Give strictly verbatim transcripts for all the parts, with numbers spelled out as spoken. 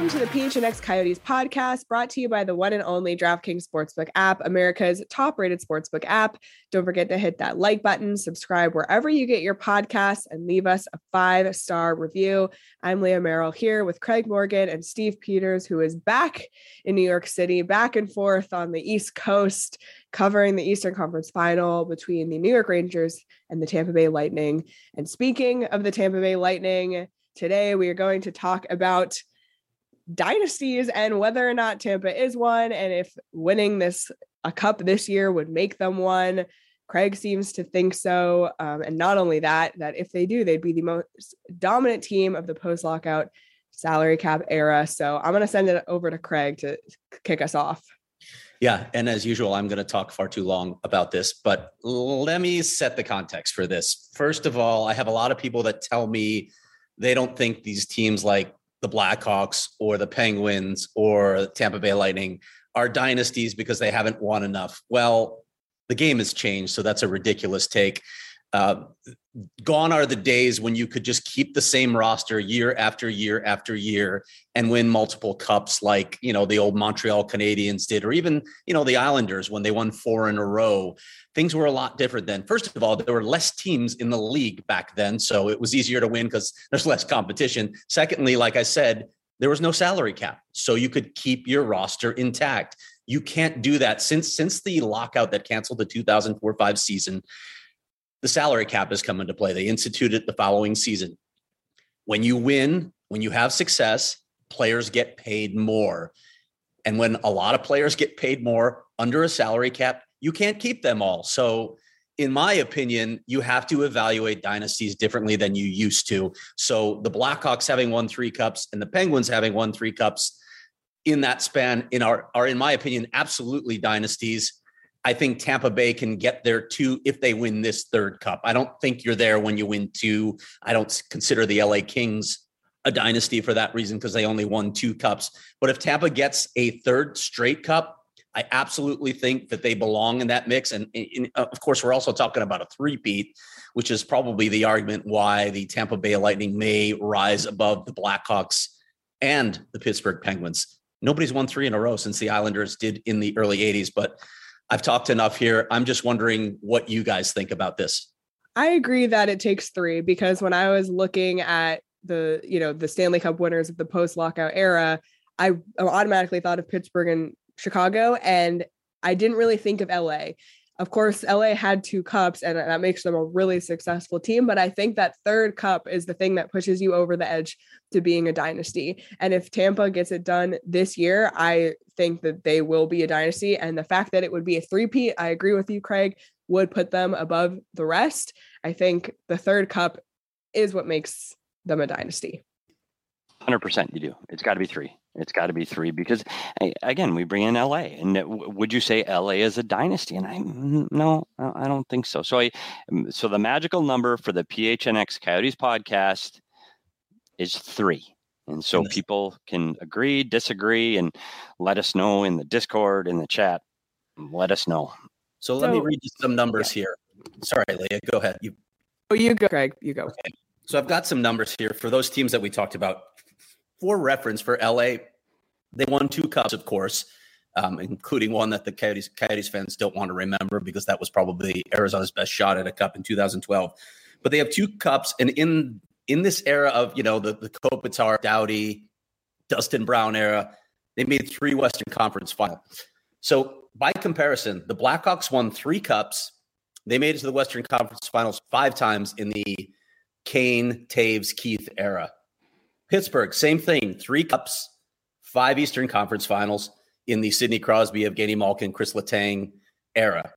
Welcome to the P H N X Coyotes podcast, brought to you by the one and only DraftKings Sportsbook app, America's top-rated sportsbook app. Don't forget to hit that like button, subscribe wherever you get your podcasts, and leave us a five-star review. I'm Leah Merrill here with Craig Morgan and Steve Peters, who is back in New York City, back and forth on the East Coast, covering the Eastern Conference Final between the New York Rangers and the Tampa Bay Lightning. And speaking of the Tampa Bay Lightning, today we are going to talk about dynasties and whether or not Tampa is one, and if winning this a cup this year would make them one. Craig seems to think so, um, and not only that, that if they do, they'd be the most dominant team of the post-lockout salary cap era. So I'm going to send it over to Craig to kick us off. Yeah, and as usual, I'm going to talk far too long about this, but let me set the context for this. First of all, I have a lot of people that tell me they don't think these teams like the Blackhawks or the Penguins or the Tampa Bay Lightning are dynasties because they haven't won enough. Well, the game has changed, so that's a ridiculous take. Uh, gone are the days when you could just keep the same roster year after year after year and win multiple cups like, you know, the old Montreal Canadiens did, or even, you know, the Islanders when they won four in a row. Things were a lot different then. First of all, there were less teams in the league back then, so it was easier to win because there's less competition. Secondly, like I said, there was no salary cap, so you could keep your roster intact. You can't do that since since the lockout that canceled the two thousand four five season. The salary cap has come into play. They instituted it the following season. When you win, when you have success, players get paid more. And when a lot of players get paid more under a salary cap, you can't keep them all. So in my opinion, you have to evaluate dynasties differently than you used to. So the Blackhawks having won three cups and the Penguins having won three cups in that span in our, are, in my opinion, absolutely dynasties. I think Tampa Bay can get there too if they win this third cup. I don't think you're there when you win two. I don't consider the L A Kings a dynasty for that reason because they only won two cups. But if Tampa gets a third straight cup, I absolutely think that they belong in that mix. And, and of course, we're also talking about a three-peat, which is probably the argument why the Tampa Bay Lightning may rise above the Blackhawks and the Pittsburgh Penguins. Nobody's won three in a row since the Islanders did in the early eighties, but I've talked enough here. I'm just wondering what you guys think about this. I agree that it takes three, because when I was looking at the, you know, the Stanley Cup winners of the post-lockout era, I automatically thought of Pittsburgh and Chicago, and I didn't really think of L A. Of course, L A had two cups, and that makes them a really successful team. But I think that third cup is the thing that pushes you over the edge to being a dynasty. And if Tampa gets it done this year, I think that they will be a dynasty. And the fact that it would be a three-peat, I agree with you, Craig, would put them above the rest. I think the third cup is what makes them a dynasty. one hundred percent you do. It's got to be three. It's got to be three because, again, we bring in L A. And would you say L A is a dynasty? And I no, I don't think so. So I, so the magical number for the P H N X Coyotes podcast is three. And so people can agree, disagree, and let us know in the Discord, in the chat. Let us know. So let so, me read you some numbers yeah. here. Sorry, Leah, go ahead. You, oh, you go, Craig. You go. Okay. So I've got some numbers here for those teams that we talked about. For reference, for L A, they won two cups, of course, um, including one that the Coyotes, Coyotes fans don't want to remember because that was probably Arizona's best shot at a cup in two thousand twelve. But they have two cups, and in in this era of, you know, the, the Kopitar, Doughty, Dustin Brown era, they made three Western Conference finals. So by comparison, the Blackhawks won three cups. They made it to the Western Conference finals five times in the Kane, Taves, Keith era. Pittsburgh, same thing, three cups, five Eastern Conference finals in the Sidney Crosby, Evgeny Malkin, Chris Letang era.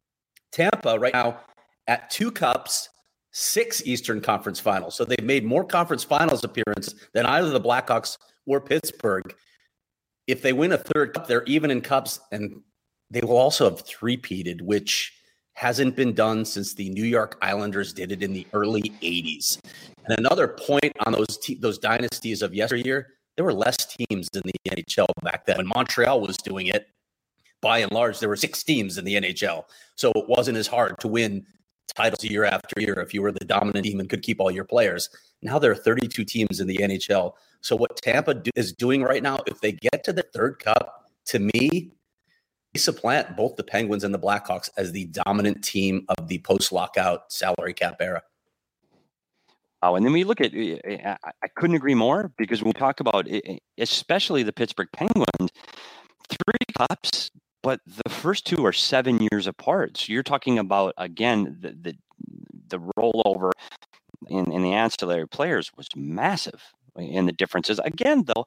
Tampa right now at two cups, six Eastern Conference finals. So they've made more conference finals appearances than either the Blackhawks or Pittsburgh. If they win a third cup, they're even in cups, and they will also have three-peated, which hasn't been done since the New York Islanders did it in the early eighties. And another point on those te- those dynasties of yesteryear, there were less teams in the N H L back then. When Montreal was doing it, by and large, there were six teams in the N H L. So it wasn't as hard to win titles year after year if you were the dominant team and could keep all your players. Now there are thirty-two teams in the N H L. So what Tampa do, is doing right now, if they get to the third cup, to me, they supplant both the Penguins and the Blackhawks as the dominant team of the post-lockout salary cap era. Oh, and then we look at, I couldn't agree more, because when we talk about, especially the Pittsburgh Penguins, three cups, but the first two are seven years apart. So you're talking about, again, the the, the rollover in, in the ancillary players was massive. And the differences, again, though,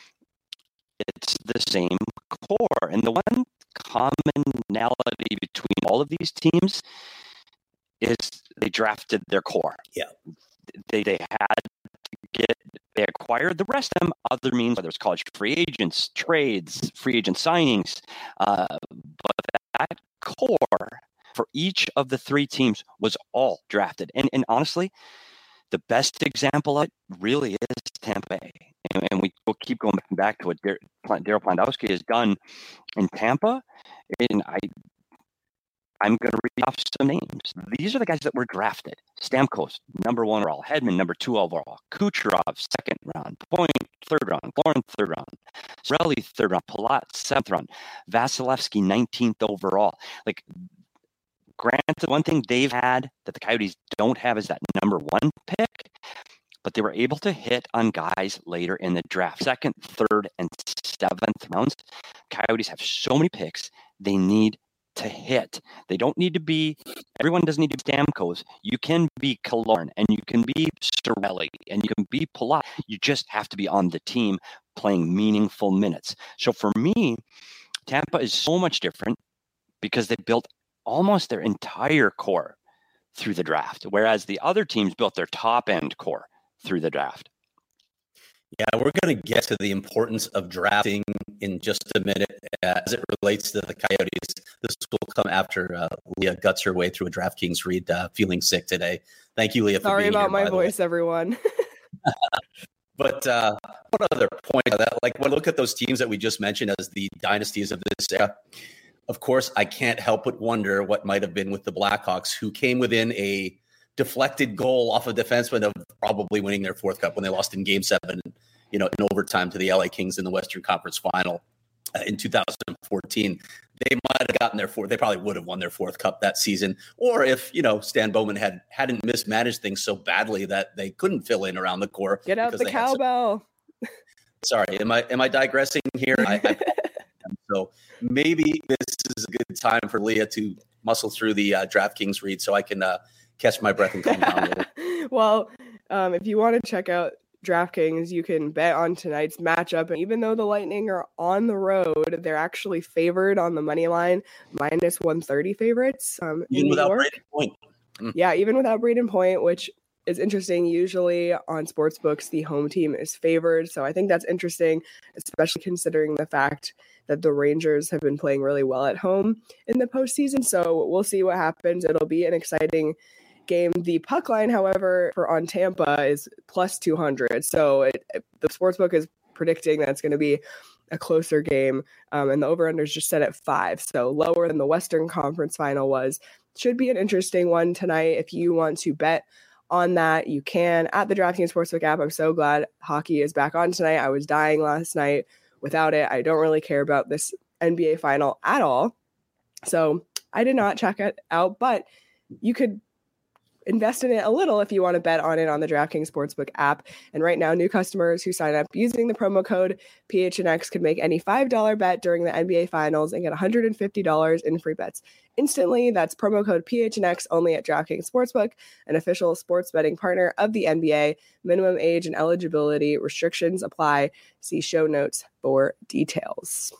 it's the same core. And the one commonality between all of these teams is they drafted their core. Yeah. They they had to get, they acquired the rest of them other means, whether it's college free agents, trades, free agent signings. Uh, but that core for each of the three teams was all drafted. And, and honestly, the best example of it really is Tampa Bay. And, and we will keep going back to what Daryl Plandowski has done in Tampa. And I, I'm going to read off some names. These are the guys that were drafted. Stamkos, number one overall. Hedman, number two overall. Kucherov, second round. Point, third round. Lauren, third round. Cirelli, third round. Palat, seventh round. Vasilevsky, nineteenth overall. Like, granted, one thing they've had that the Coyotes don't have is that number one pick, but they were able to hit on guys later in the draft. Second, third, and seventh rounds. Coyotes have so many picks, they need to hit. They don't need to be, everyone doesn't need to be Stamkos. You can be Killorn, and you can be Cirelli, and you can be Palat. You just have to be on the team playing meaningful minutes. So for me, Tampa is so much different because they built almost their entire core through the draft, whereas the other teams built their top-end core through the draft. Yeah, we're going to get to the importance of drafting in just a minute uh, as it relates to the Coyotes. This will come after uh, Leah guts her way through a DraftKings read, uh, feeling sick today. Thank you, Leah, for Sorry being about here, my voice, everyone. But uh, one other point that, like, when I look at those teams that we just mentioned as the dynasties of this era, of course, I can't help but wonder what might have been with the Blackhawks, who came within a deflected goal off a defenseman of probably winning their fourth cup when they lost in Game Seven, you know, in overtime to the L A Kings in the Western Conference Final uh, in two thousand fourteen. They might have gotten their fourth. They probably would have won their fourth cup that season, or if you know Stan Bowman had hadn't mismanaged things so badly that they couldn't fill in around the core. Get out the cowbell. Some... Sorry, am I am I digressing here? I, I... So maybe this is a good time for Leah to muscle through the uh, DraftKings read so I can uh, catch my breath and calm down. Well, um, if you want to check out DraftKings, you can bet on tonight's matchup. And even though the Lightning are on the road, they're actually favored on the money line, minus one thirty favorites. Um, even in without New York. Brayden Point. Mm. Yeah, even without Brayden Point, which is interesting. Usually on sportsbooks, the home team is favored. So I think that's interesting, especially considering the fact that the Rangers have been playing really well at home in the postseason. So we'll see what happens. It'll be an exciting game. The puck line, however, for on Tampa is plus two hundred. So it, it, the sportsbook is predicting that it's going to be a closer game. Um, and the over-under is just set at five. So lower than the Western Conference Final was. Should be an interesting one tonight. If you want to bet on that, you can at the DraftKings Sportsbook app. I'm so glad hockey is back on tonight. I was dying last night without it. I don't really care about this N B A final at all. So I did not check it out, but you could invest in it a little if you want to bet on it on the DraftKings Sportsbook app. And right now, new customers who sign up using the promo code P H N X can make any five dollars bet during the N B A Finals and get one hundred fifty dollars in free bets instantly. That's promo code P H N X only at DraftKings Sportsbook, an official sports betting partner of the N B A. Minimum age and eligibility restrictions apply. See show notes for details.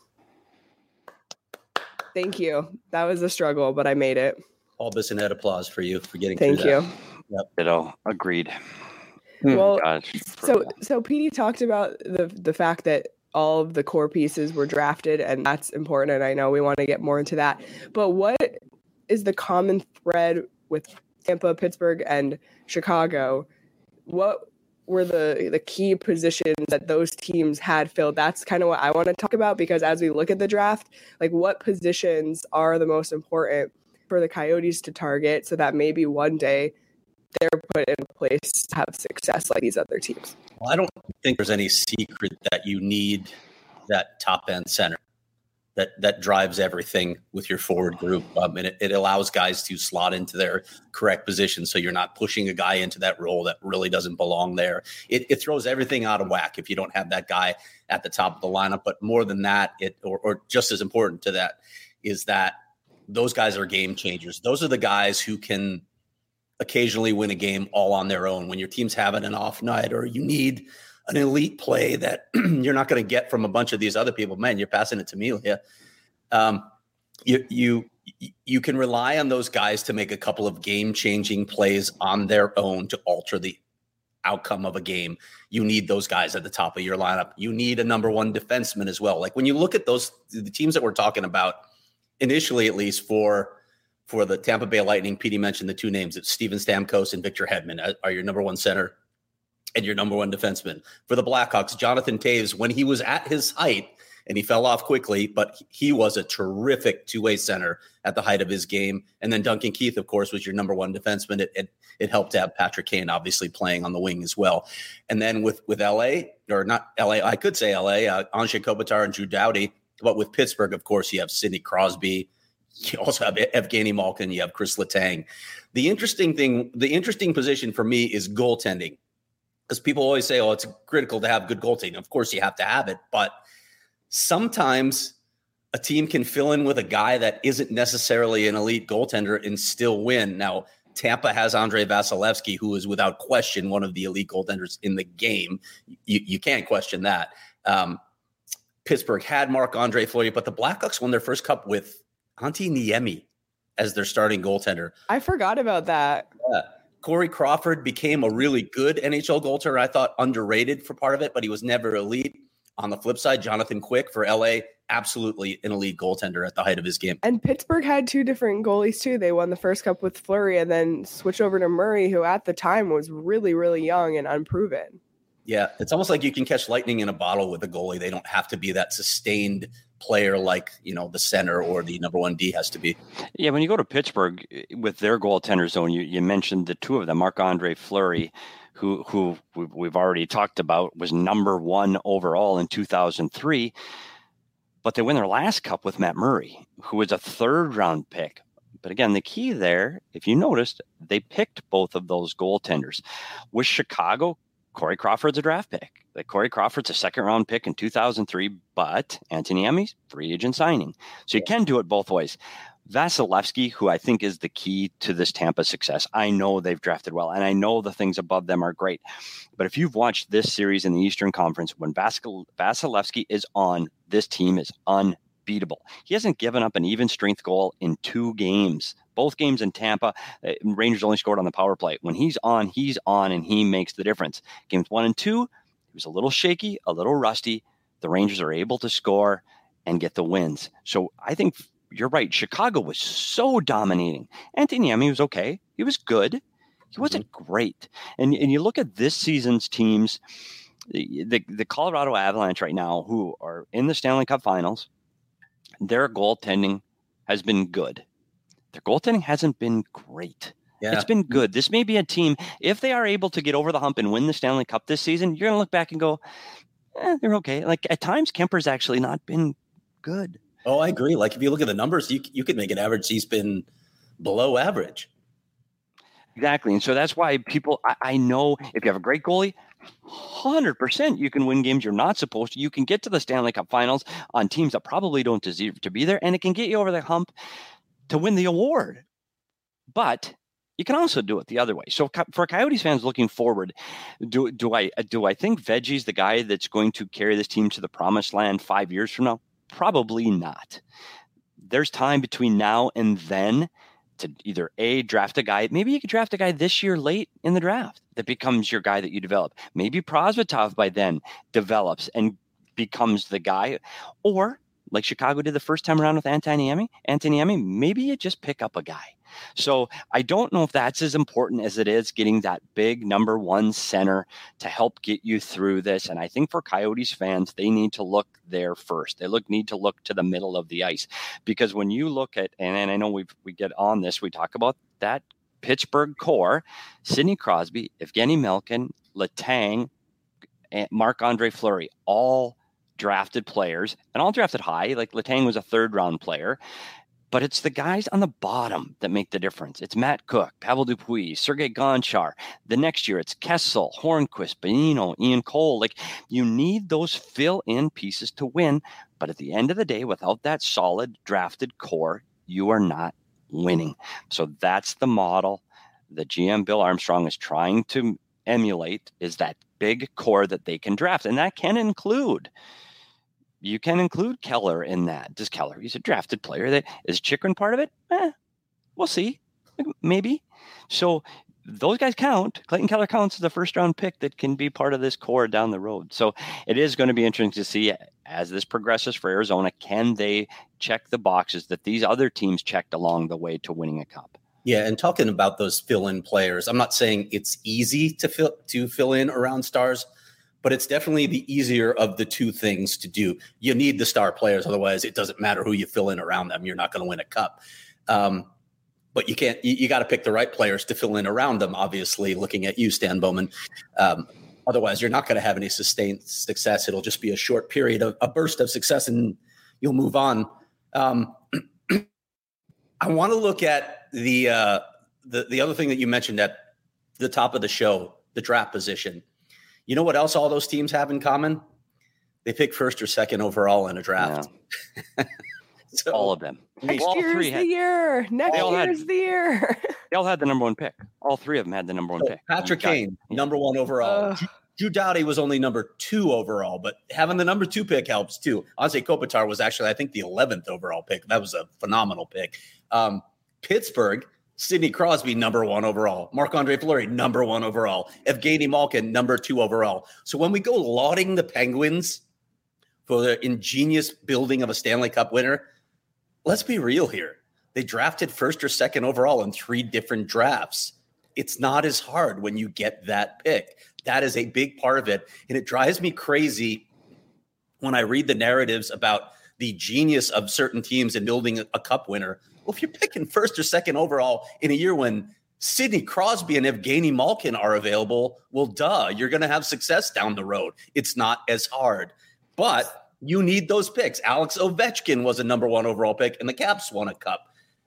Thank you. That was a struggle, but I made it. All this and that applause for you for getting Thank through you. that. Yep. Ditto. Agreed. Well, Gosh, so so P D talked about the the fact that all of the core pieces were drafted, and that's important. And I know we want to get more into that. But what is the common thread with Tampa, Pittsburgh, and Chicago? What were the the key positions that those teams had filled? That's kind of what I want to talk about, because as we look at the draft, like what positions are the most important for the Coyotes to target so that maybe one day they're put in place to have success like these other teams? Well, I don't think there's any secret that you need that top end center that that drives everything with your forward group. Um, and it, it allows guys to slot into their correct position. So you're not pushing a guy into that role that really doesn't belong there. It, it throws everything out of whack if you don't have that guy at the top of the lineup. But more than that, it or, or just as important to that is that those guys are game changers. Those are the guys who can occasionally win a game all on their own. When your team's having an off night or you need an elite play that you're not going to get from a bunch of these other people, man, you're passing it to me. Yeah. Um, you, you, you can rely on those guys to make a couple of game changing plays on their own to alter the outcome of a game. You need those guys at the top of your lineup. You need a number one defenseman as well. Like when you look at those, the teams that we're talking about initially, at least for, for the Tampa Bay Lightning, Petey mentioned the two names. It's Steven Stamkos and Victor Hedman are your number one center and your number one defenseman. For the Blackhawks, Jonathan Toews, when he was at his height, and he fell off quickly, but he was a terrific two-way center at the height of his game. And then Duncan Keith, of course, was your number one defenseman. It, it, it helped to have Patrick Kane obviously playing on the wing as well. And then with, with L A, or not L A, I could say L A, uh, Anze Kopitar and Drew Doughty. But with Pittsburgh, of course, you have Sidney Crosby. You also have Evgeny Malkin. You have Chris Letang. The interesting thing, the interesting position for me is goaltending. Because people always say, oh, it's critical to have good goaltending. Of course, you have to have it. But sometimes a team can fill in with a guy that isn't necessarily an elite goaltender and still win. Now, Tampa has Andrei Vasilevsky, who is without question one of the elite goaltenders in the game. You, you can't question that. Um, Pittsburgh had Marc-Andre Fleury, but the Blackhawks won their first cup with Antti Niemi as their starting goaltender. I forgot about that. Yeah. Corey Crawford became a really good N H L goaltender. I thought underrated for part of it, but he was never elite. On the flip side, Jonathan Quick for L A, absolutely an elite goaltender at the height of his game. And Pittsburgh had two different goalies too. They won the first cup with Fleury and then switched over to Murray, who at the time was really, really young and unproven. Yeah, it's almost like you can catch lightning in a bottle with a goalie. They don't have to be that sustained player like, you know, the center or the number one D has to be. Yeah, when you go to Pittsburgh with their goaltender zone, you, you mentioned the two of them, Marc-Andre Fleury, who who we've already talked about, was number one overall in two thousand three. But they win their last cup with Matt Murray, who was a third round pick. But again, the key there, if you noticed, they picked both of those goaltenders. With Chicago, Corey Crawford's a draft pick. Like Corey Crawford's a second round pick in two thousand three, but Antti Niemi's free agent signing. So you can do it both ways. Vasilevsky, who I think is the key to this Tampa success. I know they've drafted well, and I know the things above them are great. But if you've watched this series in the Eastern Conference, when Vasil- Vasilevsky is on, this team is unbeatable. He hasn't given up an even strength goal in two games. Both games in Tampa, uh, Rangers only scored on the power play. When he's on, he's on, and he makes the difference. Games one and two, he was a little shaky, a little rusty. The Rangers are able to score and get the wins. So I think you're right. Chicago was so dominating. Antti Niemi was okay. He was good. He wasn't mm-hmm. great. And and you look at this season's teams, the, the, the Colorado Avalanche right now, who are in the Stanley Cup Finals, their goaltending has been good. Their goaltending hasn't been great. Yeah. It's been good. This may be a team, if they are able to get over the hump and win the Stanley Cup this season, you're going to look back and go, eh, they're okay. Like at times, Kemper's actually not been good. Oh, I agree. Like if you look at the numbers, you you could make an average. He's been below average. Exactly. And so that's why people, I, I know if you have a great goalie, one hundred percent you can win games you're not supposed to. You can get to the Stanley Cup Finals on teams that probably don't deserve to be there, and it can get you over the hump to win the award. But you can also do it the other way. So for Coyotes fans looking forward, do do I do I think Veggie's the guy that's going to carry this team to the promised land five years from now? Probably not. There's time between now and then to either A, draft a guy. Maybe you could draft a guy this year late in the draft that becomes your guy that you develop. Maybe Prosvetov by then develops and becomes the guy. Or like Chicago did the first time around with Antoniemi, Antoniemi, maybe you just pick up a guy. So I don't know if that's as important as it is getting that big number one center to help get you through this. And I think for Coyotes fans, they need to look there first. They look need to look to the middle of the ice, because when you look at, and, and I know we we get on this, we talk about that Pittsburgh core: Sidney Crosby, Evgeny Malkin, Letang, and Marc-Andre Fleury, all drafted players, and all drafted high. Like Letang was a third round player. But it's the guys on the bottom that make the difference. It's Matt Cook, Pavel Dupuis, Sergei Gonchar. The next year, it's Kessel, Hornquist, Bonino, Ian Cole. Like, you need those fill-in pieces to win. But at the end of the day, without that solid drafted core, you are not winning. So that's the model that G M Bill Armstrong is trying to emulate, is that big core that they can draft. And that can include... You can include Keller in that. Does Keller? He's a drafted player. That is Chychrun part of it? Eh, we'll see. Maybe. So those guys count. Clayton Keller counts as a first round pick that can be part of this core down the road. So it is going to be interesting to see as this progresses for Arizona. Can they check the boxes that these other teams checked along the way to winning a cup? Yeah, and talking about those fill-in players, I'm not saying it's easy to fill to fill in around stars, but it's definitely the easier of the two things to do. You need the star players. Otherwise, it doesn't matter who you fill in around them. You're not going to win a cup. Um, but you can't, you, you got to pick the right players to fill in around them, obviously, looking at you, Stan Bowman. Um, otherwise, you're not going to have any sustained success. It'll just be a short period of a burst of success, and you'll move on. Um, I want to look at the, uh, the the other thing that you mentioned at the top of the show, the draft position. You know what else all those teams have in common? They pick first or second overall in a draft. Yeah. So, all of them. Next well, year's the had, year. Next year's had, the year. They all had the number one pick. All three of them had the number one so pick. Patrick Kane, yeah. number one overall. Uh, Drew Doughty was only number two overall, but having the number two pick helps too. Anze Kopitar was actually, I think, the eleventh overall pick. That was a phenomenal pick. Um, Pittsburgh, Sidney Crosby, number one overall. Marc-Andre Fleury, number one overall. Evgeny Malkin, number two overall. So when we go lauding the Penguins for the ingenious building of a Stanley Cup winner, let's be real here. They drafted first or second overall in three different drafts. It's not as hard when you get that pick. That is a big part of it. And it drives me crazy when I read the narratives about the genius of certain teams in building a, a cup winner. Well, if you're picking first or second overall in a year when Sidney Crosby and Evgeny Malkin are available, well, duh, you're going to have success down the road. It's not as hard, but you need those picks. Alex Ovechkin was a number one overall pick, and the Caps won a cup.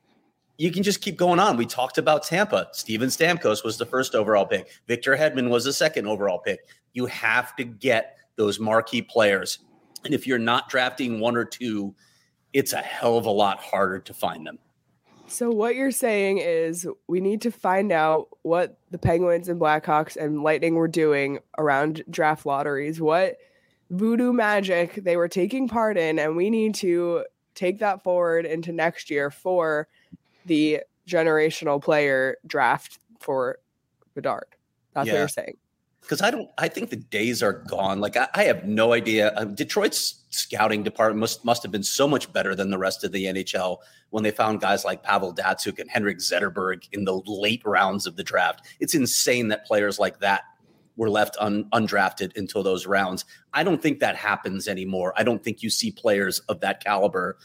You can just keep going on. We talked about Tampa. Steven Stamkos was the first overall pick. Victor Hedman was the second overall pick. You have to get those marquee players. And if you're not drafting one or two, it's a hell of a lot harder to find them. So what you're saying is we need to find out what the Penguins and Blackhawks and Lightning were doing around draft lotteries, what voodoo magic they were taking part in, and we need to take that forward into next year for the generational player draft for Bedard. That's yeah. what you're saying. Because I don't, I think the days are gone. Like I, I have no idea. Um, Detroit's scouting department must must have been so much better than the rest of the N H L when they found guys like Pavel Datsyuk and Henrik Zetterberg in the late rounds of the draft. It's insane that players like that were left un, undrafted until those rounds. I don't think that happens anymore. I don't think you see players of that caliber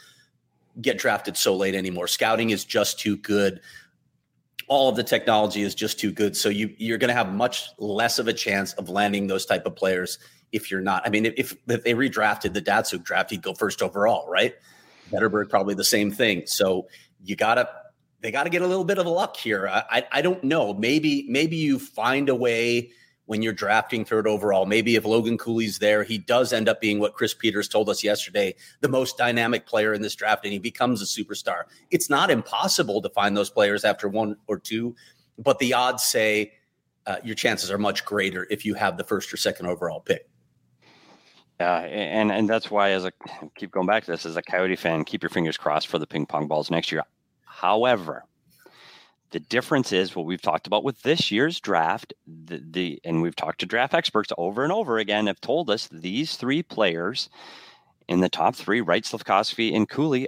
get drafted so late anymore. Scouting is just too good. All of the technology is just too good. So you, you're going to have much less of a chance of landing those type of players if you're not. I mean, if, if they redrafted the Datsyuk draft, he'd go first overall, right? Zetterberg, probably the same thing. So you got to, they got to get a little bit of luck here. I, I, I don't know. Maybe, maybe you find a way when you're drafting third overall. Maybe if Logan Cooley's there, he does end up being what Chris Peters told us yesterday, the most dynamic player in this draft, and he becomes a superstar. It's not impossible to find those players after one or two, but the odds say uh, your chances are much greater if you have the first or second overall pick. Yeah, and and that's why, as a keep going back to this, as a Coyote fan, keep your fingers crossed for the ping pong balls next year. However, the difference is what we've talked about with this year's draft, the, the and we've talked to draft experts over and over again, have told us these three players in the top three, Wright, Slafkovsky, and Cooley,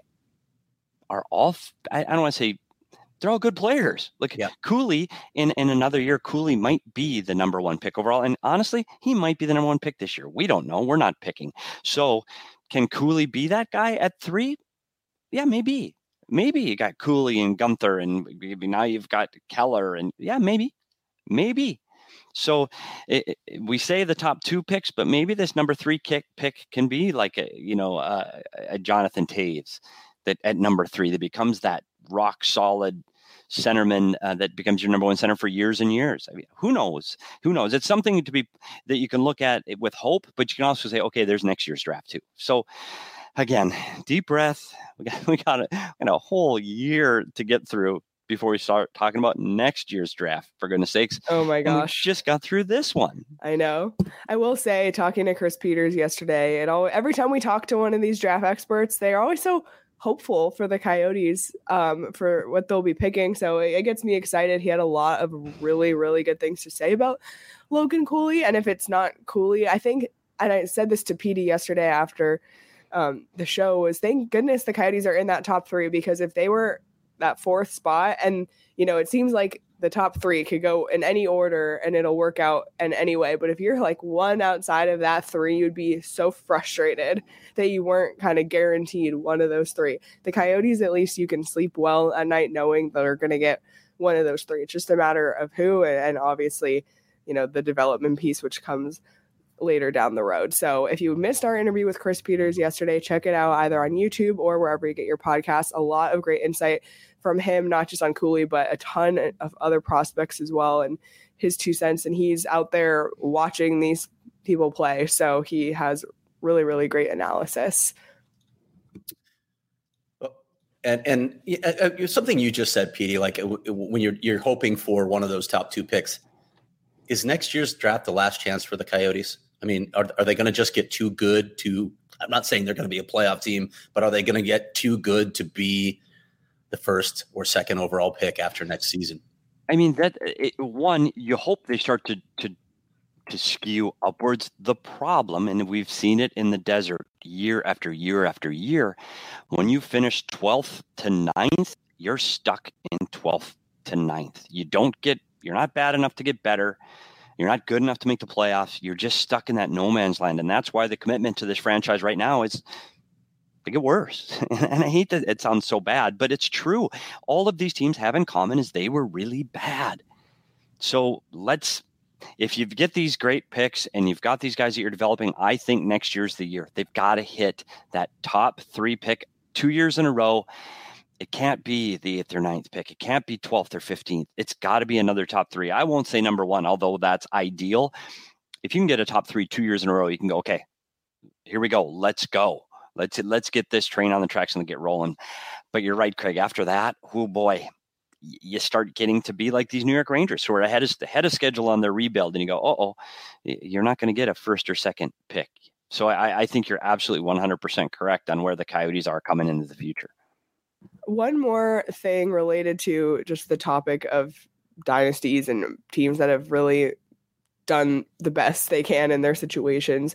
are all, I, I don't want to say, they're all good players. Like yeah. Cooley, in, in another year, Cooley might be the number one pick overall. And honestly, he might be the number one pick this year. We don't know. We're not picking. So can Cooley be that guy at three? Yeah, maybe. Maybe you got Cooley and Gunther, and now you've got Keller, and yeah, maybe, maybe. So it, it, we say the top two picks, but maybe this number three kick pick can be like a, you know, uh, a Jonathan Toews that at number three that becomes that rock solid centerman uh, that becomes your number one center for years and years. I mean, who knows? Who knows? It's something to be that you can look at with hope, but you can also say, okay, there's next year's draft too. So. Again, deep breath. We got we got a, you know, a whole year to get through before we start talking about next year's draft, for goodness sakes. Oh my gosh. We just got through this one. I know. I will say, talking to Chris Peters yesterday, and all, every time we talk to one of these draft experts, they're always so hopeful for the Coyotes um, for what they'll be picking. So it, it gets me excited. He had a lot of really, really good things to say about Logan Cooley. And if it's not Cooley, I think, and I said this to Petey yesterday after Um, the show, was thank goodness the Coyotes are in that top three, because if they were that fourth spot, and you know, it seems like the top three could go in any order and it'll work out in any way. But if you're like one outside of that three, you'd be so frustrated that you weren't kind of guaranteed one of those three. The Coyotes, at least you can sleep well at night knowing that they're going to get one of those three. It's just a matter of who, and, and obviously, you know, the development piece, which comes later down the road. So if you missed our interview with Chris Peters yesterday, check it out either on YouTube or wherever you get your podcasts. A lot of great insight from him, not just on Cooley, but a ton of other prospects as well, and his two cents. And he's out there watching these people play. So he has really, really great analysis. And and uh, something you just said, Petey, like when you're you're hoping for one of those top two picks, is next year's draft the last chance for the Coyotes? I mean, are, are they going to just get too good to, I'm not saying they're going to be a playoff team, but are they going to get too good to be the first or second overall pick after next season? I mean, that it, one, you hope they start to, to, to skew upwards. The problem, and we've seen it in the desert year after year after year, when you finish twelfth to ninth, you're stuck in twelfth to ninth. You don't get, you're not bad enough to get better. You're not good enough to make the playoffs. You're just stuck in that no man's land. And that's why the commitment to this franchise right now is to get worse. And I hate that it sounds so bad, but it's true. All of these teams have in common is they were really bad. So let's, if you get these great picks and you've got these guys that you're developing, I think next year's the year. They've got to hit that top three pick two years in a row. It can't be the eighth or ninth pick. It can't be twelfth or fifteenth. It's got to be another top three. I won't say number one, although that's ideal. If you can get a top three two years in a row, you can go, okay, here we go. Let's go. Let's let's get this train on the tracks and get rolling. But you're right, Craig. After that, oh boy, you start getting to be like these New York Rangers who are ahead of, ahead of schedule on their rebuild. And you go, uh-oh, you're not going to get a first or second pick. So I, I think you're absolutely one hundred percent correct on where the Coyotes are coming into the future. One more thing related to just the topic of dynasties and teams that have really done the best they can in their situations.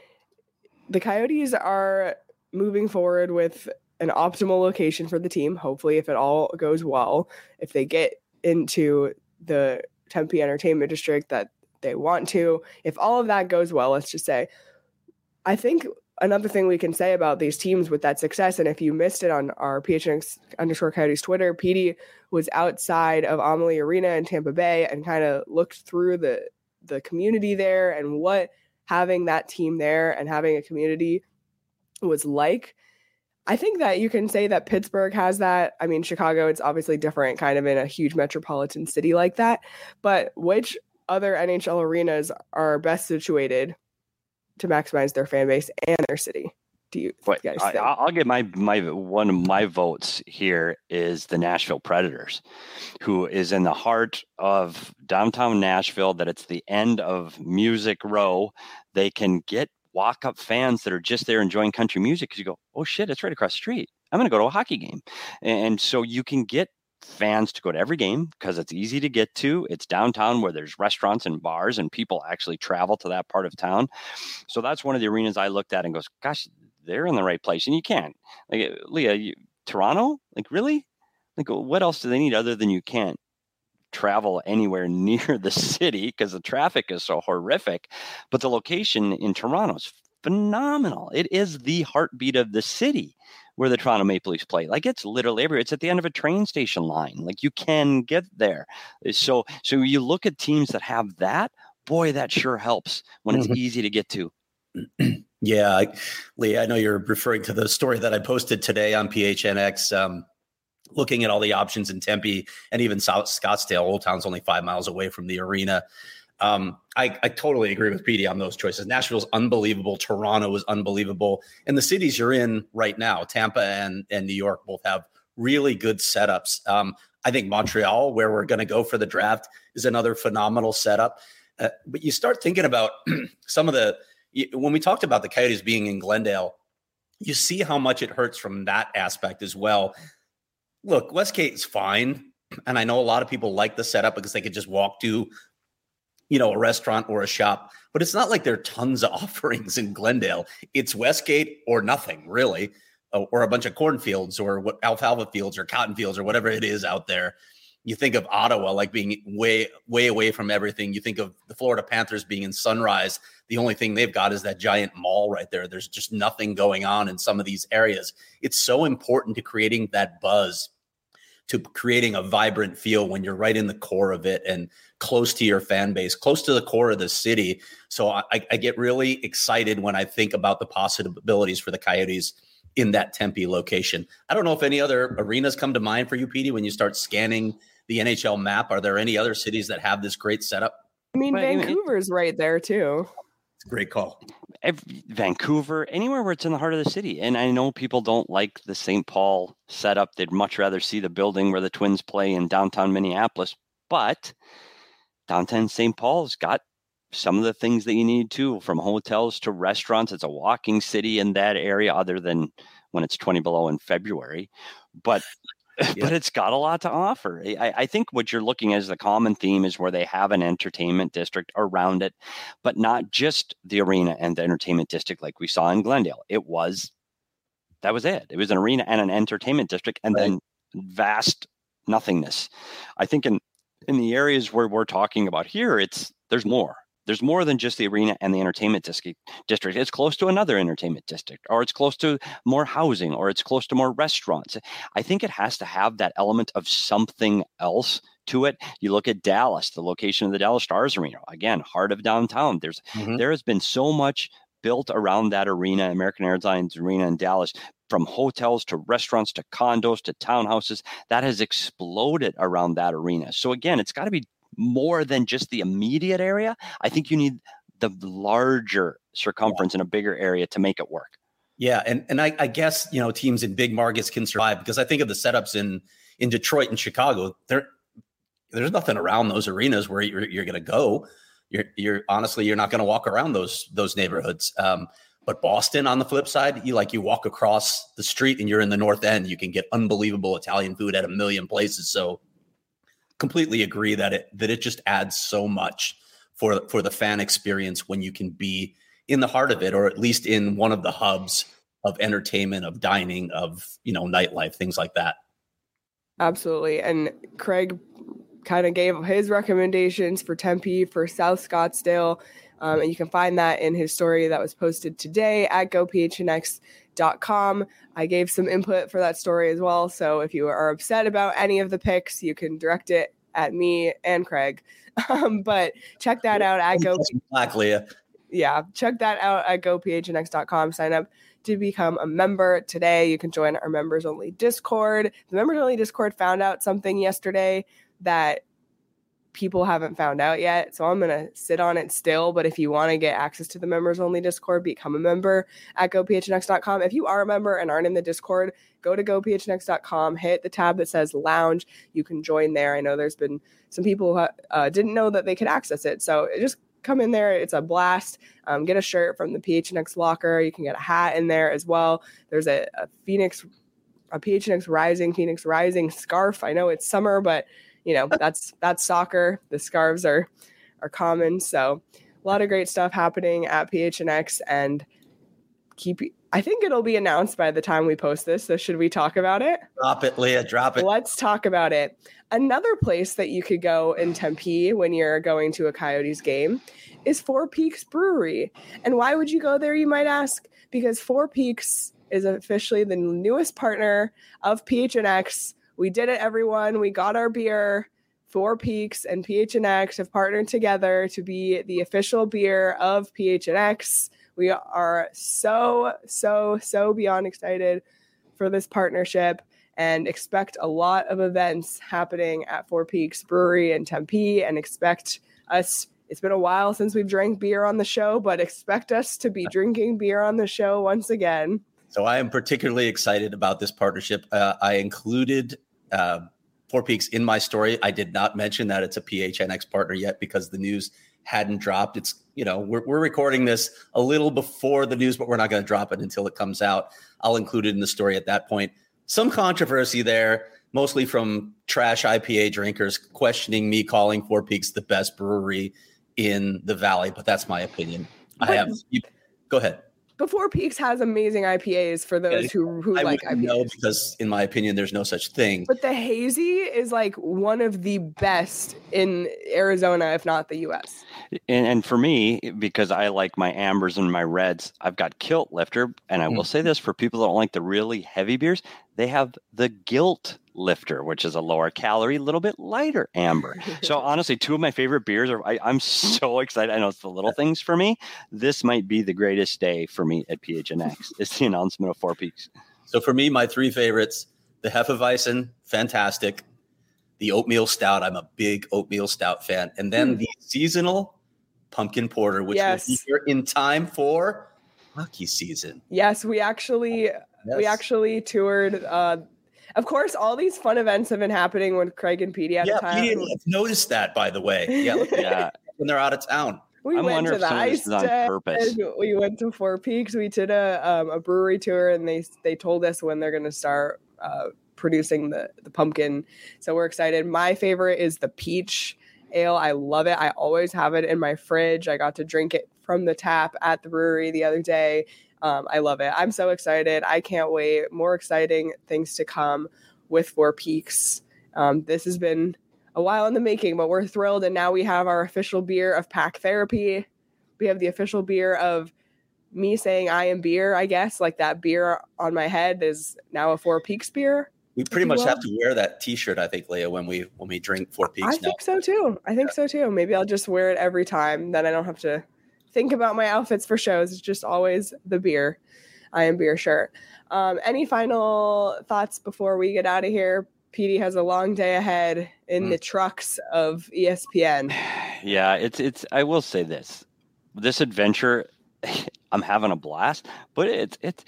The Coyotes are moving forward with an optimal location for the team. Hopefully, if it all goes well, if they get into the Tempe Entertainment District that they want to, if all of that goes well, let's just say, I think another thing we can say about these teams with that success, and if you missed it on our P H N X underscore Coyotes Twitter, Petey was outside of Amalie Arena in Tampa Bay and kind of looked through the the community there and what having that team there and having a community was like. I think that you can say that Pittsburgh has that. I mean, Chicago, it's obviously different, kind of in a huge metropolitan city like that. But which other N H L arenas are best situated to maximize their fan base and their city? Do you but guys I, think? I'll get my my one of my votes here is the Nashville Predators, who is in the heart of downtown Nashville. That it's the end of Music Row. They can get walk up fans that are just there enjoying country music because you go, oh shit, it's right across the street. I'm going to go to a hockey game, and so you can get fans to go to every game because it's easy to get to. It's downtown where there's restaurants and bars and people actually travel to that part of town. So that's one of the arenas I looked at and goes, gosh, they're in the right place. And you can't, like, Leah, you, Toronto, like, really? Like, what else do they need other than you can't travel anywhere near the city because the traffic is so horrific? But the location in Toronto is phenomenal. It is the heartbeat of the city where the Toronto Maple Leafs play. Like, it's literally everywhere. It's at the end of a train station line. Like, you can get there. So, so you look at teams that have that, boy, that sure helps when it's mm-hmm. easy to get to. Yeah, I, Lee, I know you're referring to the story that I posted today on P H N X, um, looking at all the options in Tempe and even South Scottsdale. Old Town's only five miles away from the arena. Um, I, I totally agree with Petey on those choices. Nashville's unbelievable. Toronto is unbelievable. And the cities you're in right now, Tampa and, and New York, both have really good setups. Um, I think Montreal, where we're going to go for the draft, is another phenomenal setup. Uh, but you start thinking about some of the, when we talked about the Coyotes being in Glendale, you see how much it hurts from that aspect as well. Look, Westgate's fine. And I know a lot of people like the setup because they could just walk to, you know, a restaurant or a shop, but it's not like there are tons of offerings in Glendale. It's Westgate or nothing, really, or a bunch of cornfields or what alfalfa fields or cotton fields or whatever it is out there. You think of Ottawa like being way, way away from everything. You think of the Florida Panthers being in Sunrise. The only thing they've got is that giant mall right there. There's just nothing going on in some of these areas. It's so important to creating that buzz, to creating a vibrant feel when you're right in the core of it and close to your fan base, close to the core of the city. So I, I get really excited when I think about the possibilities for the Coyotes in that Tempe location. I don't know if any other arenas come to mind for you, Petey, when you start scanning the N H L map. Are there any other cities that have this great setup? I mean, but, Vancouver's I mean, right there too. It's a great call. Vancouver, anywhere where it's in the heart of the city. And I know people don't like the Saint Paul setup. They'd much rather see the building where the Twins play in downtown Minneapolis. But downtown Saint Paul's got some of the things that you need too, from hotels to restaurants. It's a walking city in that area, other than when it's twenty below in February. But yeah. But it's got a lot to offer. I, I think what you're looking at as the common theme is where they have an entertainment district around it, but not just the arena and the entertainment district like we saw in Glendale. It was, that was it. It was an arena and an entertainment district, and right. then vast nothingness. I think in, in the areas where we're talking about here, it's, there's more. There's more than just the arena and the entertainment district. It's close to another entertainment district, or it's close to more housing, or it's close to more restaurants. I think it has to have that element of something else to it. You look at Dallas, the location of the Dallas Stars Arena, again, heart of downtown. There's mm-hmm. there has been so much built around that arena, American Airlines Arena in Dallas, from hotels to restaurants to condos to townhouses, that has exploded around that arena. So again, it's got to be more than just the immediate area. I think you need the larger circumference yeah. in a bigger area to make it work. Yeah. And and I, I guess, you know, teams in big markets can survive, because I think of the setups in, in Detroit and Chicago. There, there's nothing around those arenas where you're, you're going to go. You're, you're honestly, you're not going to walk around those, those neighborhoods. Um, but Boston, on the flip side, you like, you walk across the street and you're in the North End, you can get unbelievable Italian food at a million places. So completely agree that it that it just adds so much for for the fan experience when you can be in the heart of it, or at least in one of the hubs of entertainment, of dining, of, you know, nightlife, things like that. Absolutely. And Craig kind of gave his recommendations for Tempe, for South Scottsdale, um, and you can find that in his story that was posted today at go p h n x dot com. I gave some input for that story as well. So if you are upset about any of the picks, you can direct it at me and Craig. Um, but check that out at Go. Black, Leah. Yeah, check that out at go p h n x dot com. Sign up to become a member today. You can join our members only Discord. The members only Discord found out something yesterday that people haven't found out yet. So I'm going to sit on it still. But if you want to get access to the members only Discord, become a member at go p h n x dot com. If you are a member and aren't in the Discord, go to go p h n x dot com, hit the tab that says lounge. You can join there. I know there's been some people who uh, didn't know that they could access it. So just come in there. It's a blast. Um, get a shirt from the P H N X locker. You can get a hat in there as well. There's a, a Phoenix, a P H N X Rising, Phoenix Rising scarf. I know it's summer, but you know, that's, that's soccer. The scarves are, are common. So a lot of great stuff happening at P H N X, and keep I think it'll be announced by the time we post this. So should we talk about it? Drop it, Leah. Drop it. Let's talk about it. Another place that you could go in Tempe when you're going to a Coyotes game is Four Peaks Brewery. And why would you go there, you might ask? Because Four Peaks is officially the newest partner of P H N X. We did it, everyone. We got our beer. Four Peaks and P H N X have partnered together to be the official beer of P H N X. We are so, so, so beyond excited for this partnership and expect a lot of events happening at Four Peaks Brewery in Tempe, and expect us, it's been a while since we've drank beer on the show, but expect us to be drinking beer on the show once again. So I am particularly excited about this partnership. Uh, I included uh, Four Peaks in my story. I did not mention that it's a P H N X partner yet because the news hadn't dropped. It's, you know, we're, we're recording this a little before the news, but we're not going to drop it until it comes out. I'll include it in the story at that point. Some controversy there, mostly from trash I P A drinkers questioning me calling Four Peaks the best brewery in the Valley, but that's my opinion. But I have, you, go ahead. But Four Peaks has amazing I P As for those yeah, who, who I like I P As. No, because in my opinion, there's no such thing. But the hazy is like one of the best in Arizona, if not the U S. And, and for me, because I like my ambers and my reds, I've got Kilt Lifter. And I will mm. say this for people that don't like the really heavy beers, they have the Gilt Lifter, which is a lower calorie, a little bit lighter amber. So honestly, two of my favorite beers are, I, I'm so excited. I know it's the little things for me. This might be the greatest day for me at P H N X. It's the announcement of Four Peaks. So for me, my three favorites, the Hefeweizen, fantastic. The oatmeal stout, I'm a big oatmeal stout fan. And then mm. the seasonal pumpkin porter, which yes. will be here in time for hockey season. Yes, we actually yes. we actually toured. Uh, of course, all these fun events have been happening when Craig and Petey at yeah, the time. Yeah, Petey noticed that, by the way. Yeah, yeah. When they're out of town. We I went to the ice on purpose. We went to Four Peaks. We did a um, a brewery tour, and they they told us when they're going to start uh, producing the the pumpkin. So we're excited. My favorite is the peach ale. I love it. I always have it in my fridge. I got to drink it from the tap at the brewery the other day. Um, I love it. I'm so excited. I can't wait. More exciting things to come with Four Peaks. Um, this has been a while in the making, but we're thrilled. And now we have our official beer of Pack Therapy. We have the official beer of me saying I am beer, I guess. Like that beer on my head is now a Four Peaks beer. We pretty much will. have to wear that T-shirt, I think, Leah, when we when we drink Four Peaks. I now. think so too. I think yeah. so too. Maybe I'll just wear it every time. Then I don't have to think about my outfits for shows. It's just always the beer. I am beer shirt. Um, any final thoughts before we get out of here? Petey has a long day ahead in mm. the trucks of E S P N. Yeah, it's it's. I will say this: this adventure, I'm having a blast. But it's it's.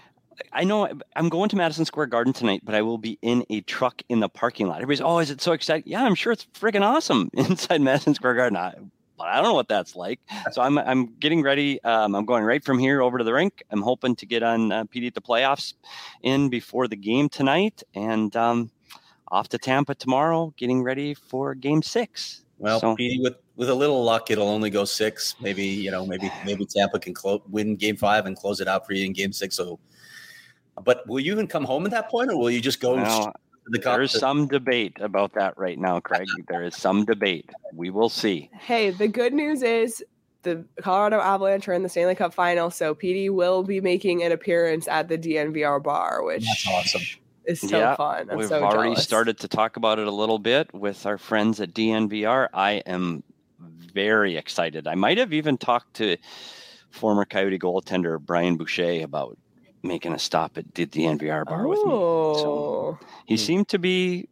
I know I'm going to Madison Square Garden tonight, but I will be in a truck in the parking lot. Everybody's, oh, is it so exciting? Yeah, I'm sure it's freaking awesome inside Madison Square Garden. I, but I don't know what that's like. So I'm I'm getting ready. Um, I'm going right from here over to the rink. I'm hoping to get on uh, P D at the playoffs in before the game tonight, and um, off to Tampa tomorrow, getting ready for Game Six. Well, so, P D, with with a little luck, it'll only go six. Maybe you know, maybe maybe Tampa can clo- win Game Five and close it out for you in Game Six. So. But will you even come home at that point, or will you just go? Well, to the there's some debate about that right now, Craig. There is some debate. We will see. Hey, the good news is the Colorado Avalanche are in the Stanley Cup final, so Petey will be making an appearance at the D N V R bar, which That's awesome. is so yeah, fun. I'm we've so already jealous. started to talk about it a little bit with our friends at D N V R. I am very excited. I might have even talked to former Coyote goaltender Brian Boucher about making a stop at the D N V R bar oh. with me. So he mm. seemed to be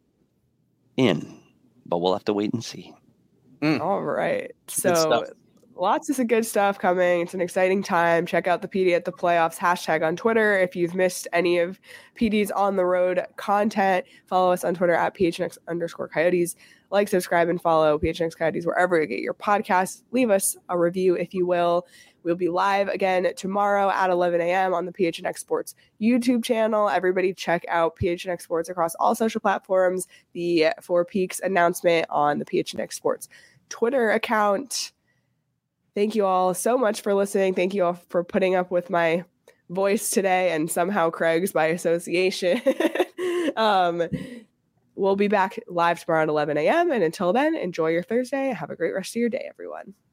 in, but we'll have to wait and see. Mm. All right. So lots of good stuff coming. It's an exciting time. Check out the P D at the playoffs hashtag on Twitter. If you've missed any of P D's on the road content, follow us on Twitter at P H N X underscore Coyotes. Like, subscribe, and follow P H N X Coyotes wherever you get your podcasts. Leave us a review if you will. We'll be live again tomorrow at eleven a.m. on the P H N X Sports YouTube channel. Everybody check out P H N X Sports across all social platforms. The Four Peaks announcement on the P H N X Sports Twitter account. Thank you all so much for listening. Thank you all for putting up with my voice today and somehow Craig's by association. um, we'll be back live tomorrow at eleven a.m. And until then, enjoy your Thursday. Have a great rest of your day, everyone.